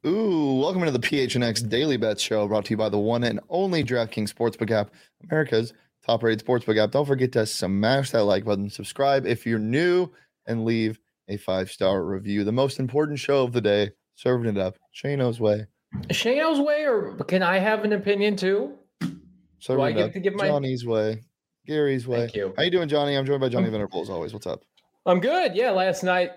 Ooh, welcome into the PHNX Daily Bet Show, brought to you by the one and only DraftKings Sportsbook app, America's top-rated sportsbook app. Don't forget to smash that like button, subscribe if you're new, and leave a 5-star review. The most important show of the day, serving it up Shano's way. Shano's way, or can I have an opinion too? Serving Do I it get up to give my Johnny's way, Gary's way. Thank you. How you doing, Johnny? I'm joined by Johnny Venerable as always. What's up? I'm good. Yeah, last night,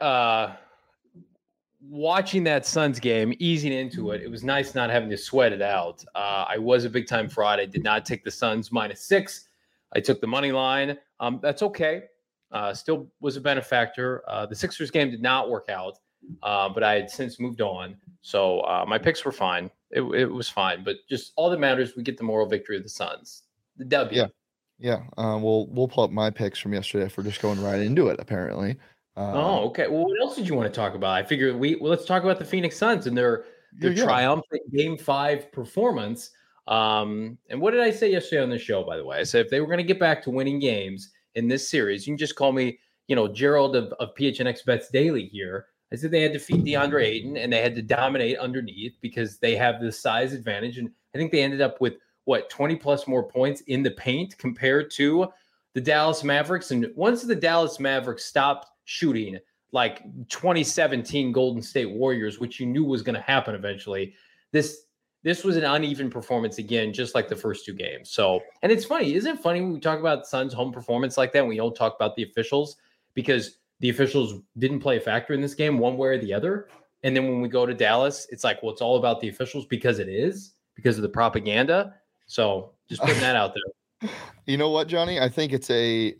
watching that Suns game, easing into it, it was nice not having to sweat it out. I was a big-time fraud. I did not take the Suns -6. I took the money line. That's okay. Still was a benefactor. The Sixers game did not work out, but I had since moved on. So my picks were fine. It was fine. But just all that matters, we get the moral victory of the Suns. The W. Yeah. We'll pull up my picks from yesterday if we're just going right into it, apparently. Okay. Well, what else did you want to talk about? I figured let's talk about the Phoenix Suns and their triumphant Game 5 performance. And what did I say yesterday on the show, by the way? I said if they were going to get back to winning games in this series, you can just call me, Gerald of PHNX Bets Daily here. I said they had to defeat DeAndre Ayton and they had to dominate underneath because they have the size advantage. And I think they ended up with 20 plus more points in the paint compared to the Dallas Mavericks. And once the Dallas Mavericks stopped shooting like 2017 Golden State Warriors, which you knew was going to happen eventually, this was an uneven performance again, just like the first two games. So, and it's funny, isn't it funny when we talk about Suns home performance like that, we don't talk about the officials because the officials didn't play a factor in this game one way or the other. And then when we go to Dallas, it's like, well, it's all about the officials because it is, because of the propaganda. So just putting that out there. You know what, Johnny? I think it's the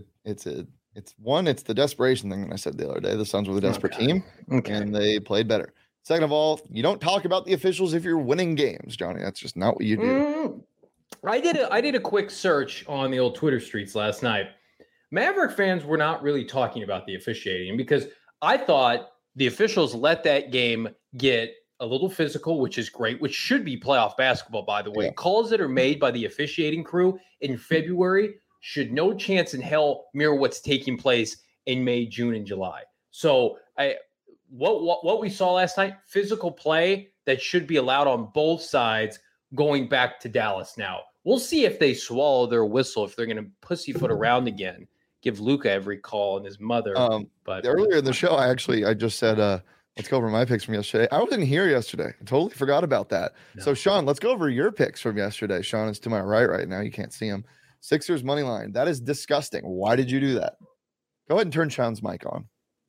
desperation thing that I said the other day. The Suns were the desperate team, and they played better. Second of all, you don't talk about the officials if you're winning games, Johnny. That's just not what you do. I did a quick search on the old Twitter streets last night. Maverick fans were not really talking about the officiating because I thought the officials let that game get a little physical, which is great, which should be playoff basketball, by the way. Yeah. Calls that are made by the officiating crew in February should no chance in hell mirror what's taking place in May, June, and July. So what we saw last night, physical play that should be allowed on both sides going back to Dallas now. We'll see if they swallow their whistle, if they're going to pussyfoot around again, give Luka every call and his mother. But earlier in the show, I just said, let's go over my picks from yesterday. I wasn't here yesterday. I totally forgot about that. No. So, Sean, let's go over your picks from yesterday. Sean is to my right now. You can't see him. Sixers money line. That is disgusting. Why did you do that? Go ahead and turn Sean's mic on.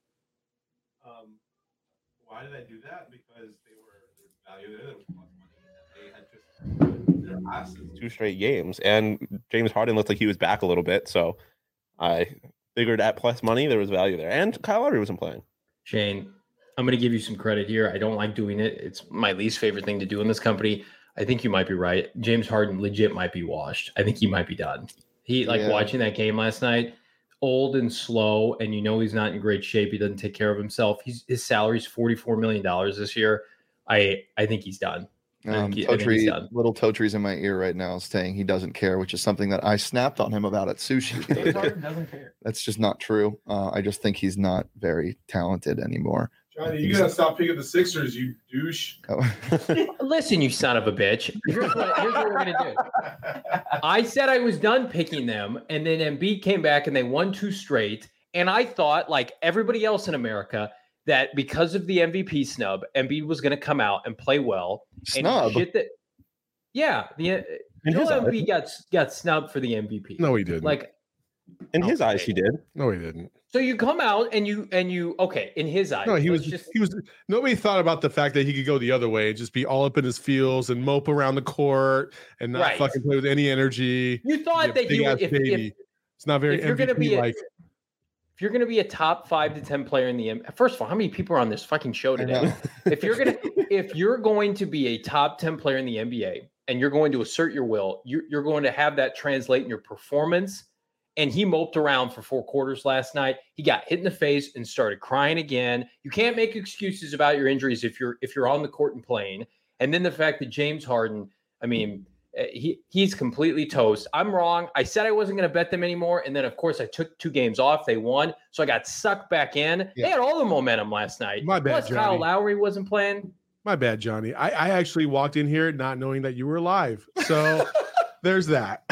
Why did I do that? Because there's value there. There was plus money. They had just their asses 2 straight games, and James Harden looked like he was back a little bit. So I figured at plus money there was value there, and Kyle Lowry wasn't playing. Shane, I'm going to give you some credit here. I don't like doing it. It's my least favorite thing to do in this company. I think you might be right. James Harden legit might be washed. I think he might be done. Watching that game last night, old and slow, and he's not in great shape. He doesn't take care of himself. His salary's $44 million this year. I think he's done. Little Totry's in my ear right now saying he doesn't care, which is something that I snapped on him about at sushi. James Harden doesn't care. That's just not true. I just think he's not very talented anymore. Johnny, you gotta stop picking the Sixers, you douche. Listen, you son of a bitch. Here's what we're gonna do. I said I was done picking them, and then Embiid came back and they won 2 straight. And I thought, like everybody else in America, that because of the MVP snub, Embiid was gonna come out and play well. Snub? Embiid got snubbed for the MVP. No, he didn't. In his eyes, he did. No, he didn't. So you come out and you in his eyes. No, he was nobody thought about the fact that he could go the other way and just be all up in his feels and mope around the court and not fucking play with any energy. You thought that it's not very MVP like. If you're going to be a top 5 to 10 player in the NBA, first of all, how many people are on this fucking show today? If you're going to be a top 10 player in the NBA and you're going to assert your will, you're going to have that translate in your performance. And he moped around for 4 quarters last night. He got hit in the face and started crying again. You can't make excuses about your injuries if you're on the court and playing. And then the fact that James Harden, he's completely toast. I'm wrong. I said I wasn't going to bet them anymore. And then, of course, I took 2 games off. They won. So I got sucked back in. Yeah. They had all the momentum last night. My bad, Plus, Johnny. Kyle Lowry wasn't playing. My bad, Johnny. I actually walked in here not knowing that you were live. So there's that.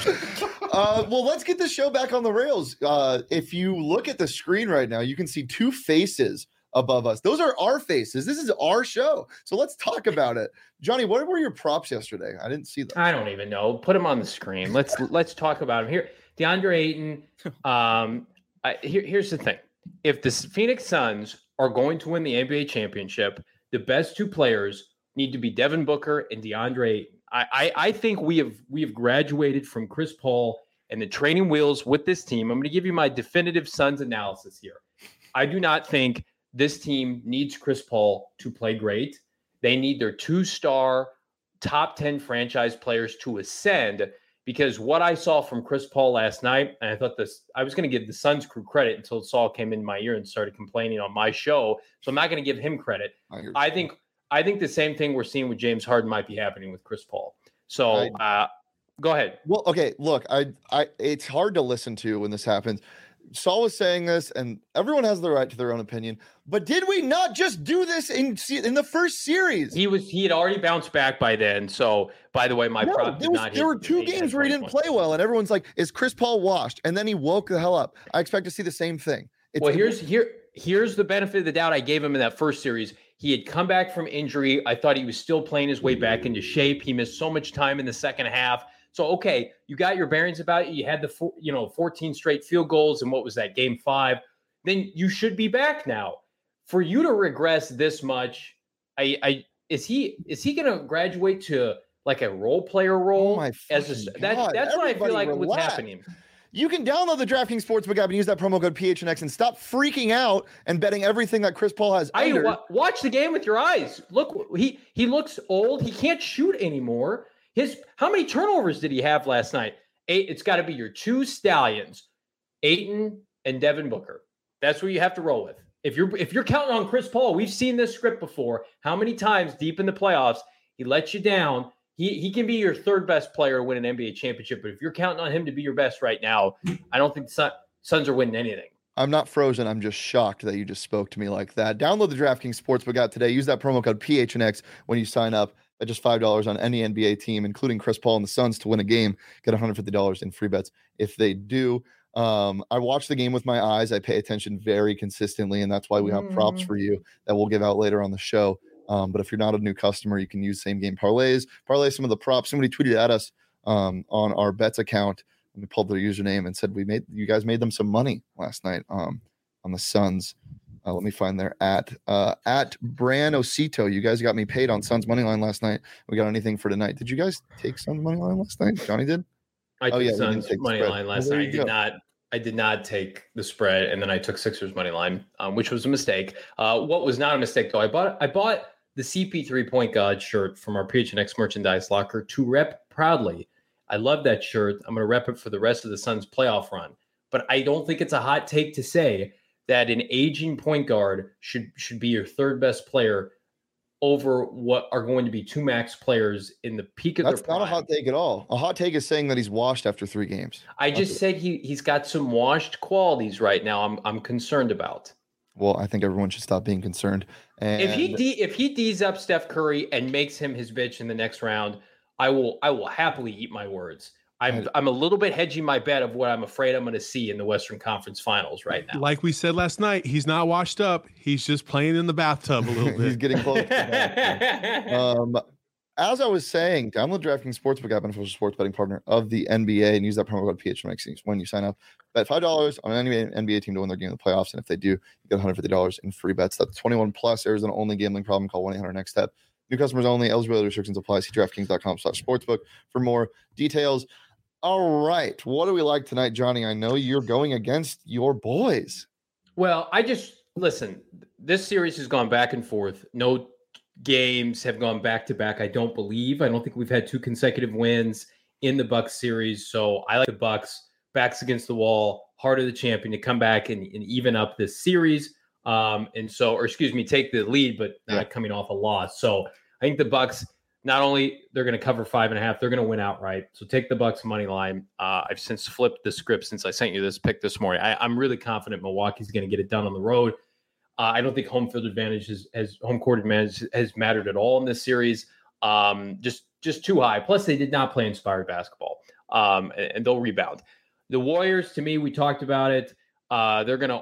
Well, let's get this show back on the rails. If you look at the screen right now, you can see two faces above us. Those are our faces. This is our show. So let's talk about it. Johnny, what were your props yesterday? I didn't see them. I don't even know. Put them on the screen. Let's talk about him here. DeAndre Ayton. Here's the thing. If the Phoenix Suns are going to win the NBA championship, the best two players need to be Devin Booker and DeAndre Ayton. I think we have graduated from Chris Paul and the training wheels with this team. I'm going to give you my definitive Suns analysis here. I do not think this team needs Chris Paul to play great. They need their 2-star top 10 franchise players to ascend, because what I saw from Chris Paul last night, and I thought I was going to give the Suns crew credit until Saul came in my ear and started complaining on my show. So I'm not going to give him credit. I think the same thing we're seeing with James Harden might be happening with Chris Paul. So go ahead. Well, okay, look, it's hard to listen to when this happens. Saul was saying this, and everyone has the right to their own opinion. But did we not just do this in the first series? He had already bounced back by then. So, by the way, prop did not hit. There were two games where he didn't play well, and everyone's like, "Is Chris Paul washed?" And then he woke the hell up. I expect to see the same thing. Here's the benefit of the doubt I gave him in that first series. He had come back from injury. I thought he was still playing his way back into shape. He missed so much time in the second half. So, okay, you got your bearings about it. You had the 14 straight field goals, and what was that, game 5? Then you should be back now. For you to regress this much, is he going to graduate to like a role player role? That's what I feel like what's happening. You can download the DraftKings Sportsbook app and use that promo code PHNX and stop freaking out and betting everything that Chris Paul has. Watch the game with your eyes. Look, he looks old. He can't shoot anymore. How many turnovers did he have last night? 8. It's got to be your 2 stallions, Ayton and Devin Booker. That's what you have to roll with. If you're counting on Chris Paul, we've seen this script before. How many times deep in the playoffs he lets you down? He can be your third best player to win an NBA championship, but if you're counting on him to be your best right now, I don't think the Suns are winning anything. I'm not frozen. I'm just shocked that you just spoke to me like that. Download the DraftKings Sportsbook app today. Use that promo code PHNX when you sign up. At just $5 on any NBA team, including Chris Paul and the Suns, to win a game. Get $150 in free bets if they do. I watch the game with my eyes. I pay attention very consistently, and that's why we have props for you that we'll give out later on the show. But if you're not a new customer, you can use same game parlays. Parlay some of the props. Somebody tweeted at us on our bets account. We pulled their username and said you guys made them some money last night on the Suns. Let me find their at Bran Osito. You guys got me paid on Suns money line last night. We got anything for tonight? Did you guys take Suns money line last night? Johnny did. I took Suns money line last night. I did not take the spread, and then I took Sixers money line, which was a mistake. What was not a mistake though, I bought the CP3 Point Guard shirt from our PHNX merchandise locker to rep proudly. I love that shirt. I'm going to rep it for the rest of the Suns playoff run. But I don't think it's a hot take to say that an aging point guard should be your third best player over what are going to be 2 max players in the peak of their prime. That's not a hot take at all. A hot take is saying that he's washed after 3 games. I just said he's got some washed qualities right now. I'm concerned about. Well, I think everyone should stop being concerned. And if he D's up Steph Curry and makes him his bitch in the next round, I will happily eat my words. I'm a little bit hedging my bet of what I'm afraid I'm going to see in the Western Conference Finals right now. Like we said last night, he's not washed up. He's just playing in the bathtub a little bit. He's getting close to that. As I was saying, download DraftKings Sportsbook app, an official sports betting partner of the NBA, and use that promo code PHNX when you sign up. Bet $5 on any NBA team to win their game in the playoffs, and if they do, you get $150 in free bets. That's 21 plus. Arizona only. Gambling problem? Call 1-800-NEXT STEP. New customers only. Eligibility restrictions apply. See DraftKings.com/sportsbook for more details. All right. What do we like tonight, Johnny? I know you're going against your boys. Well, listen, this series has gone back and forth. No games have gone back to back. I don't think we've had 2 consecutive wins in the Bucks series. So I like the Bucks, backs against the wall, heart of the champion, to come back and even up this series. Take the lead, but not coming off a loss. So I think the Bucks, not only they're going to cover 5.5, they're going to win outright. So take the Bucks money line. I've since flipped the script since I sent you this pick this morning. I'm really confident Milwaukee's going to get it done on the road. I don't think home field advantage has home court advantage has mattered at all in this series. Just too high. Plus, they did not play inspired basketball, and they'll rebound. The Warriors, to me, we talked about it. They're going to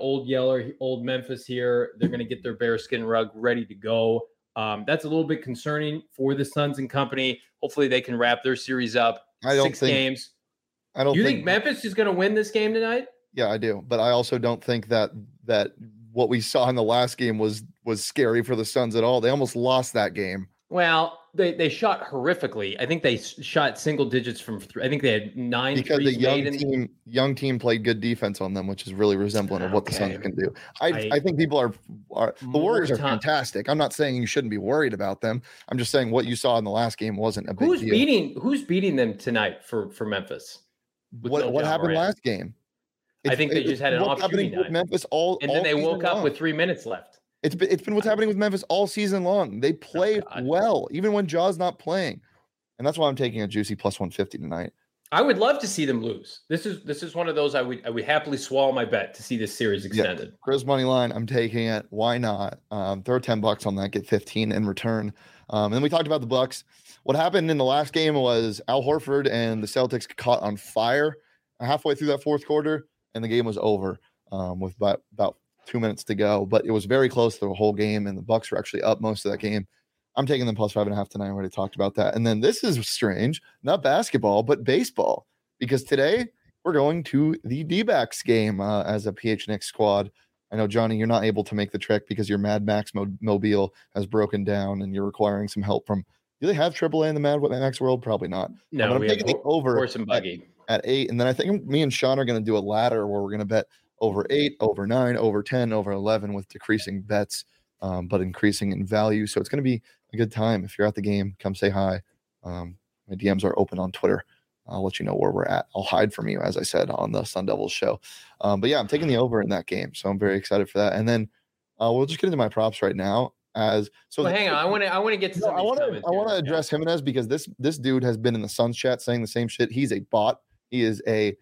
old Memphis here. They're going to get their bearskin rug ready to go. That's a little bit concerning for the Suns and company. Hopefully, they can wrap their series up. Six games. You think Memphis is going to win this game tonight? Yeah, I do. But I also don't think that what we saw in the last game was scary for the Suns at all. They almost lost that game. Well, they shot horrifically. I think they shot single digits from three. I think they had 9 because threes the young team played good defense on them, which is really resembling of what the Suns can do. I think people are the Warriors are fantastic. I'm not saying you shouldn't be worried about them. I'm just saying what you saw in the last game wasn't a big deal. Who's beating them tonight for Memphis? What happened last game? I think they just had an off shooting night. Memphis then they woke up with 3 minutes left. It's been what's happening with Memphis all season long. They played well, even when Jaw's not playing. And that's why I'm taking a juicy plus 150 tonight. I would love to see them lose. This is one of those I would happily swallow my bet to see this series extended. Yeah. Chris money line, I'm taking it. Why not? Throw $10 on that, get 15 in return. And then we talked about the Bucks. What happened in the last game was Al Horford and the Celtics caught on fire halfway through that fourth quarter, and the game was over with about 2 minutes to go, but it was very close the whole game, and the Bucks were actually up most of that game. I'm taking them plus 5.5 tonight. I already talked about that. And then this is strange, not basketball, but baseball, because today we're going to the D-backs game as a PHNX squad. I know, Johnny, you're not able to make the trek because your Mad Max mobile has broken down and you're requiring some help from. Do they have AAA in the Mad Max world? Probably not. No, I'm taking the over horse and buggy at 8, and then I think me and Sean are going to do a ladder where we're going to bet over 8, over 9, over 10, over 11 with decreasing bets, but increasing in value. So it's going to be a good time. If you're at the game, come say hi. My DMs are open on Twitter. I'll let you know where we're at. I'll hide from you, as I said, on the Sun Devils show. But yeah, I'm taking the over in that game. So I'm very excited for that. And then we'll just get into my props right now. Hang on. I want to get to I want to address Jimenez because this dude has been in the Suns chat saying the same shit. He's a bot. He's a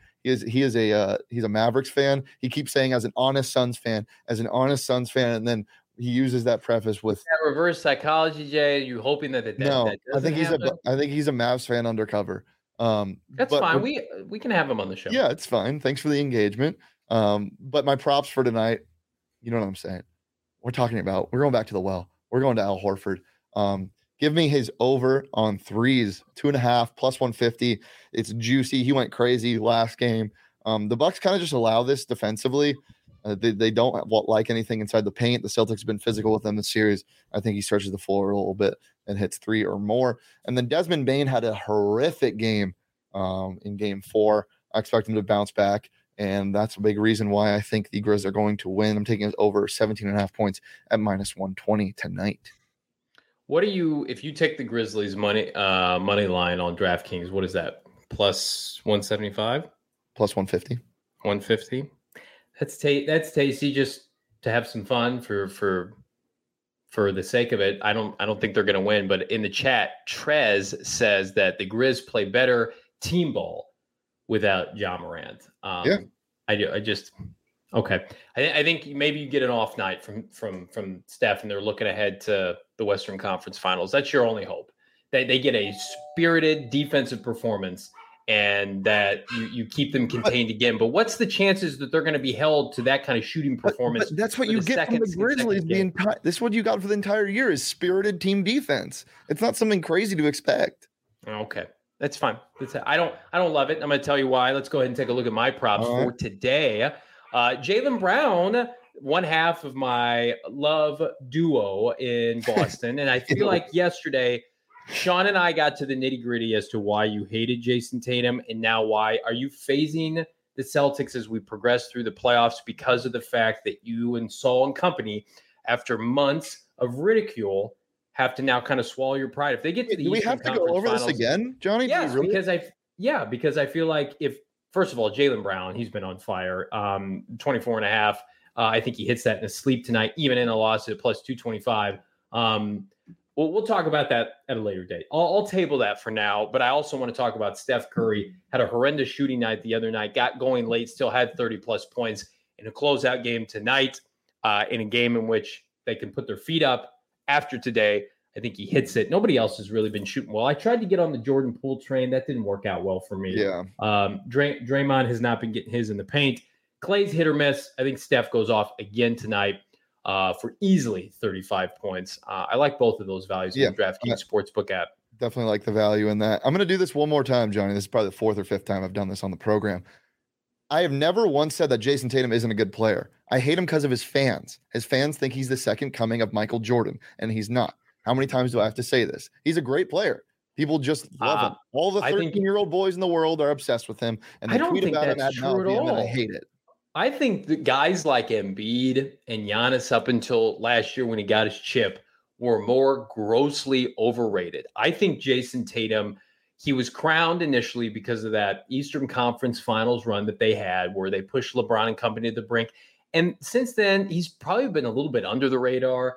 Mavericks fan. He keeps saying as an honest Suns fan, and then he uses that preface with that reverse psychology. Jay, you hoping that I think he's a Mavs fan undercover. That's fine. We can have him on the show. Yeah, it's fine. Thanks for the engagement. But my props for tonight, you know what I'm saying? We're going back to the well. We're going to Al Horford. Give me his over on threes, 2.5 plus 150. It's juicy. He went crazy last game. The Bucks kind of just allow this defensively. They don't like anything inside the paint. The Celtics have been physical with them this series. I think he stretches the floor a little bit and hits 3 or more. And then Desmond Bane had a horrific game in game 4. I expect him to bounce back. And that's a big reason why I think the Grizz are going to win. I'm taking it over 17.5 points at minus 120 tonight. What do you, if you take the Grizzlies money line on DraftKings, what is that? Plus 175? Plus 150. 150. That's tasty just to have some fun for the sake of it. I don't think they're going to win, but in the chat, Trez says that the Grizz play better team ball without Ja Morant. Yeah. I just okay. I think maybe you get an off night from Steph and they're looking ahead to the Western Conference Finals. That's your only hope. They get a spirited defensive performance and that you keep them contained again. But what's the chances that they're going to be held to that kind of shooting performance? But that's what you get from the Grizzlies. This is what you got for the entire year is spirited team defense. It's not something crazy to expect. Okay. That's fine. I don't love it. I'm going to tell you why. Let's go ahead and take a look at my props for today. Jaylen Brown, one half of my love duo in Boston. And I feel like yesterday, Sean and I got to the nitty gritty as to why you hated Jason Tatum and now why. Are you phasing the Celtics as we progress through the playoffs because of the fact that you and Saul and company, after months of ridicule, have to now kind of swallow your pride? If they get to the Eastern Conference Finals, do we have to go over this again, Johnny? Yes, because I feel like if, first of all, Jaylen Brown, he's been on fire. 24.5. I think he hits that in his sleep tonight, even in a loss at plus 225. We'll talk about that at a later date. I'll table that for now, but I also want to talk about Steph Curry. Had a horrendous shooting night the other night, got going late, still had 30-plus points in a closeout game tonight. in a game in which they can put their feet up after today. I think he hits it. Nobody else has really been shooting well. I tried to get on the Jordan Poole train. That didn't work out well for me. Yeah. Draymond has not been getting his in the paint. Clay's hit or miss. I think Steph goes off again tonight for easily 35 points. I like both of those values in the DraftKings Sportsbook app. Definitely like the value in that. I'm going to do this one more time, Johnny. This is probably the 4th or 5th time I've done this on the program. I have never once said that Jason Tatum isn't a good player. I hate him because of his fans. His fans think he's the second coming of Michael Jordan, and he's not. How many times do I have to say this? He's a great player. People just love him. All the 13-year-old boys in the world are obsessed with him, and they tweet about him ad nauseum, and I hate it. I think the guys like Embiid and Giannis up until last year when he got his chip were more grossly overrated. I think Jason Tatum, he was crowned initially because of that Eastern Conference Finals run that they had where they pushed LeBron and company to the brink. And since then, he's probably been a little bit under the radar.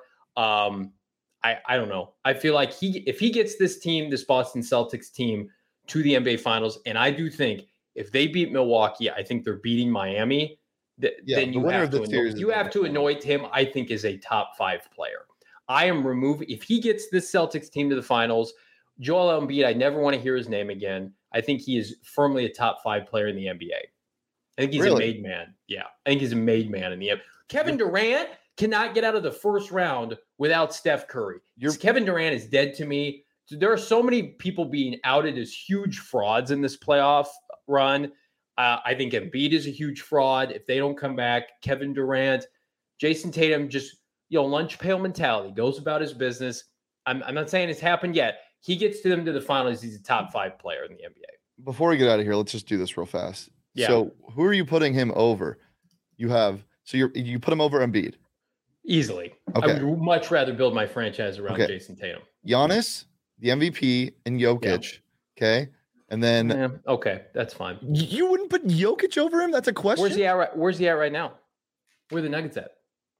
I don't know. I feel like if he gets this team, this Boston Celtics team, to the NBA Finals, and I do think if they beat Milwaukee, I think they're beating Miami. Then you have to anoint him, I think, as a top 5 player. I am removing if he gets this Celtics team to the finals. Joel Embiid, I never want to hear his name again. I think he is firmly a top 5 player in the NBA. I think he's a made man. Yeah, I think he's a made man in the NBA. Kevin Durant cannot get out of the first round without Steph Curry. Kevin Durant is dead to me. So there are so many people being outed as huge frauds in this playoff run. I think Embiid is a huge fraud. If they don't come back, Kevin Durant, Jason Tatum, just lunch pail mentality, goes about his business. I'm not saying it's happened yet. He gets to them to the finals. He's a top 5 player in the NBA. Before we get out of here, let's just do this real fast. Yeah. So who are you putting him over? You put him over Embiid. Easily. Okay. I would much rather build my franchise around Jason Tatum. Giannis, the MVP, and Jokic. Yeah. Okay. And then okay, that's fine. You wouldn't put Jokic over him? That's a question. Where's he at right now? Where are the Nuggets at?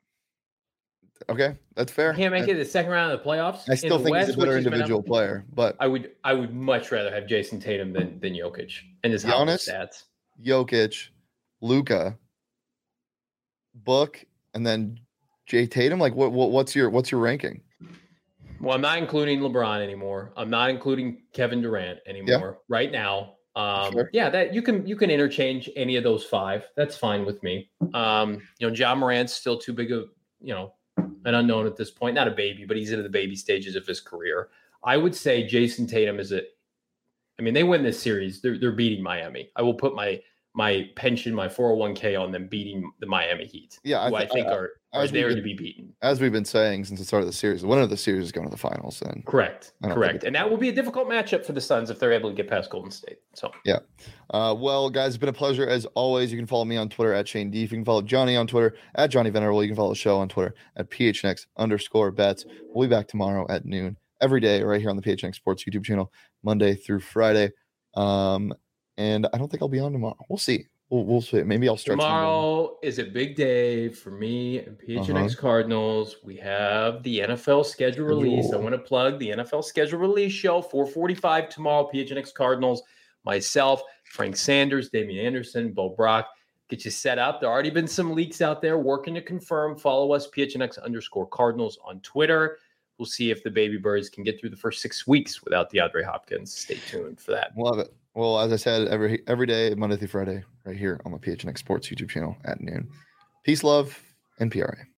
Okay, that's fair. He can't make it the second round of the playoffs. I still think he's a better individual player, but I would much rather have Jason Tatum than Jokic and his Giannis, stats. Jokic, Luka, Book, and then Jay Tatum. Like what's your ranking? Well, I'm not including LeBron anymore. I'm not including Kevin Durant anymore right now. Sure. Yeah, that you can interchange any of those 5. That's fine with me. Ja Morant's still too big of, an unknown at this point. Not a baby, but he's into the baby stages of his career. I would say Jason Tatum they win this series. They're beating Miami. I will put my pension, my 401k on them beating the Miami Heat. Yeah, I think are there to be beaten. As we've been saying since the start of the series, the winner of the series is going to the finals. Then correct. And that will be a difficult matchup for the Suns if they're able to get past Golden State. So yeah. Well, guys, it's been a pleasure as always. You can follow me on Twitter at Shane Deef. You can follow Johnny on Twitter at Johnny Venerable. You can follow the show on Twitter at PHNX_bets. We'll be back tomorrow at noon every day right here on the PHNX Sports YouTube channel, Monday through Friday. And I don't think I'll be on tomorrow. We'll see. We'll see. Maybe I'll stretch. Tomorrow is a big day for me and PHNX Cardinals. We have the NFL schedule release. I want to plug the NFL schedule release show, 4:45 tomorrow. PHNX Cardinals, myself, Frank Sanders, Damian Anderson, Bo Brock. Get you set up. There already been some leaks out there working to confirm. Follow us, PHNX_Cardinals on Twitter. We'll see if the Baby Birds can get through the first 6 weeks without DeAndre Hopkins. Stay tuned for that. Love it. Well, as I said, every day, Monday through Friday, right here on the PHNX Sports YouTube channel at noon. Peace, love, and PRA.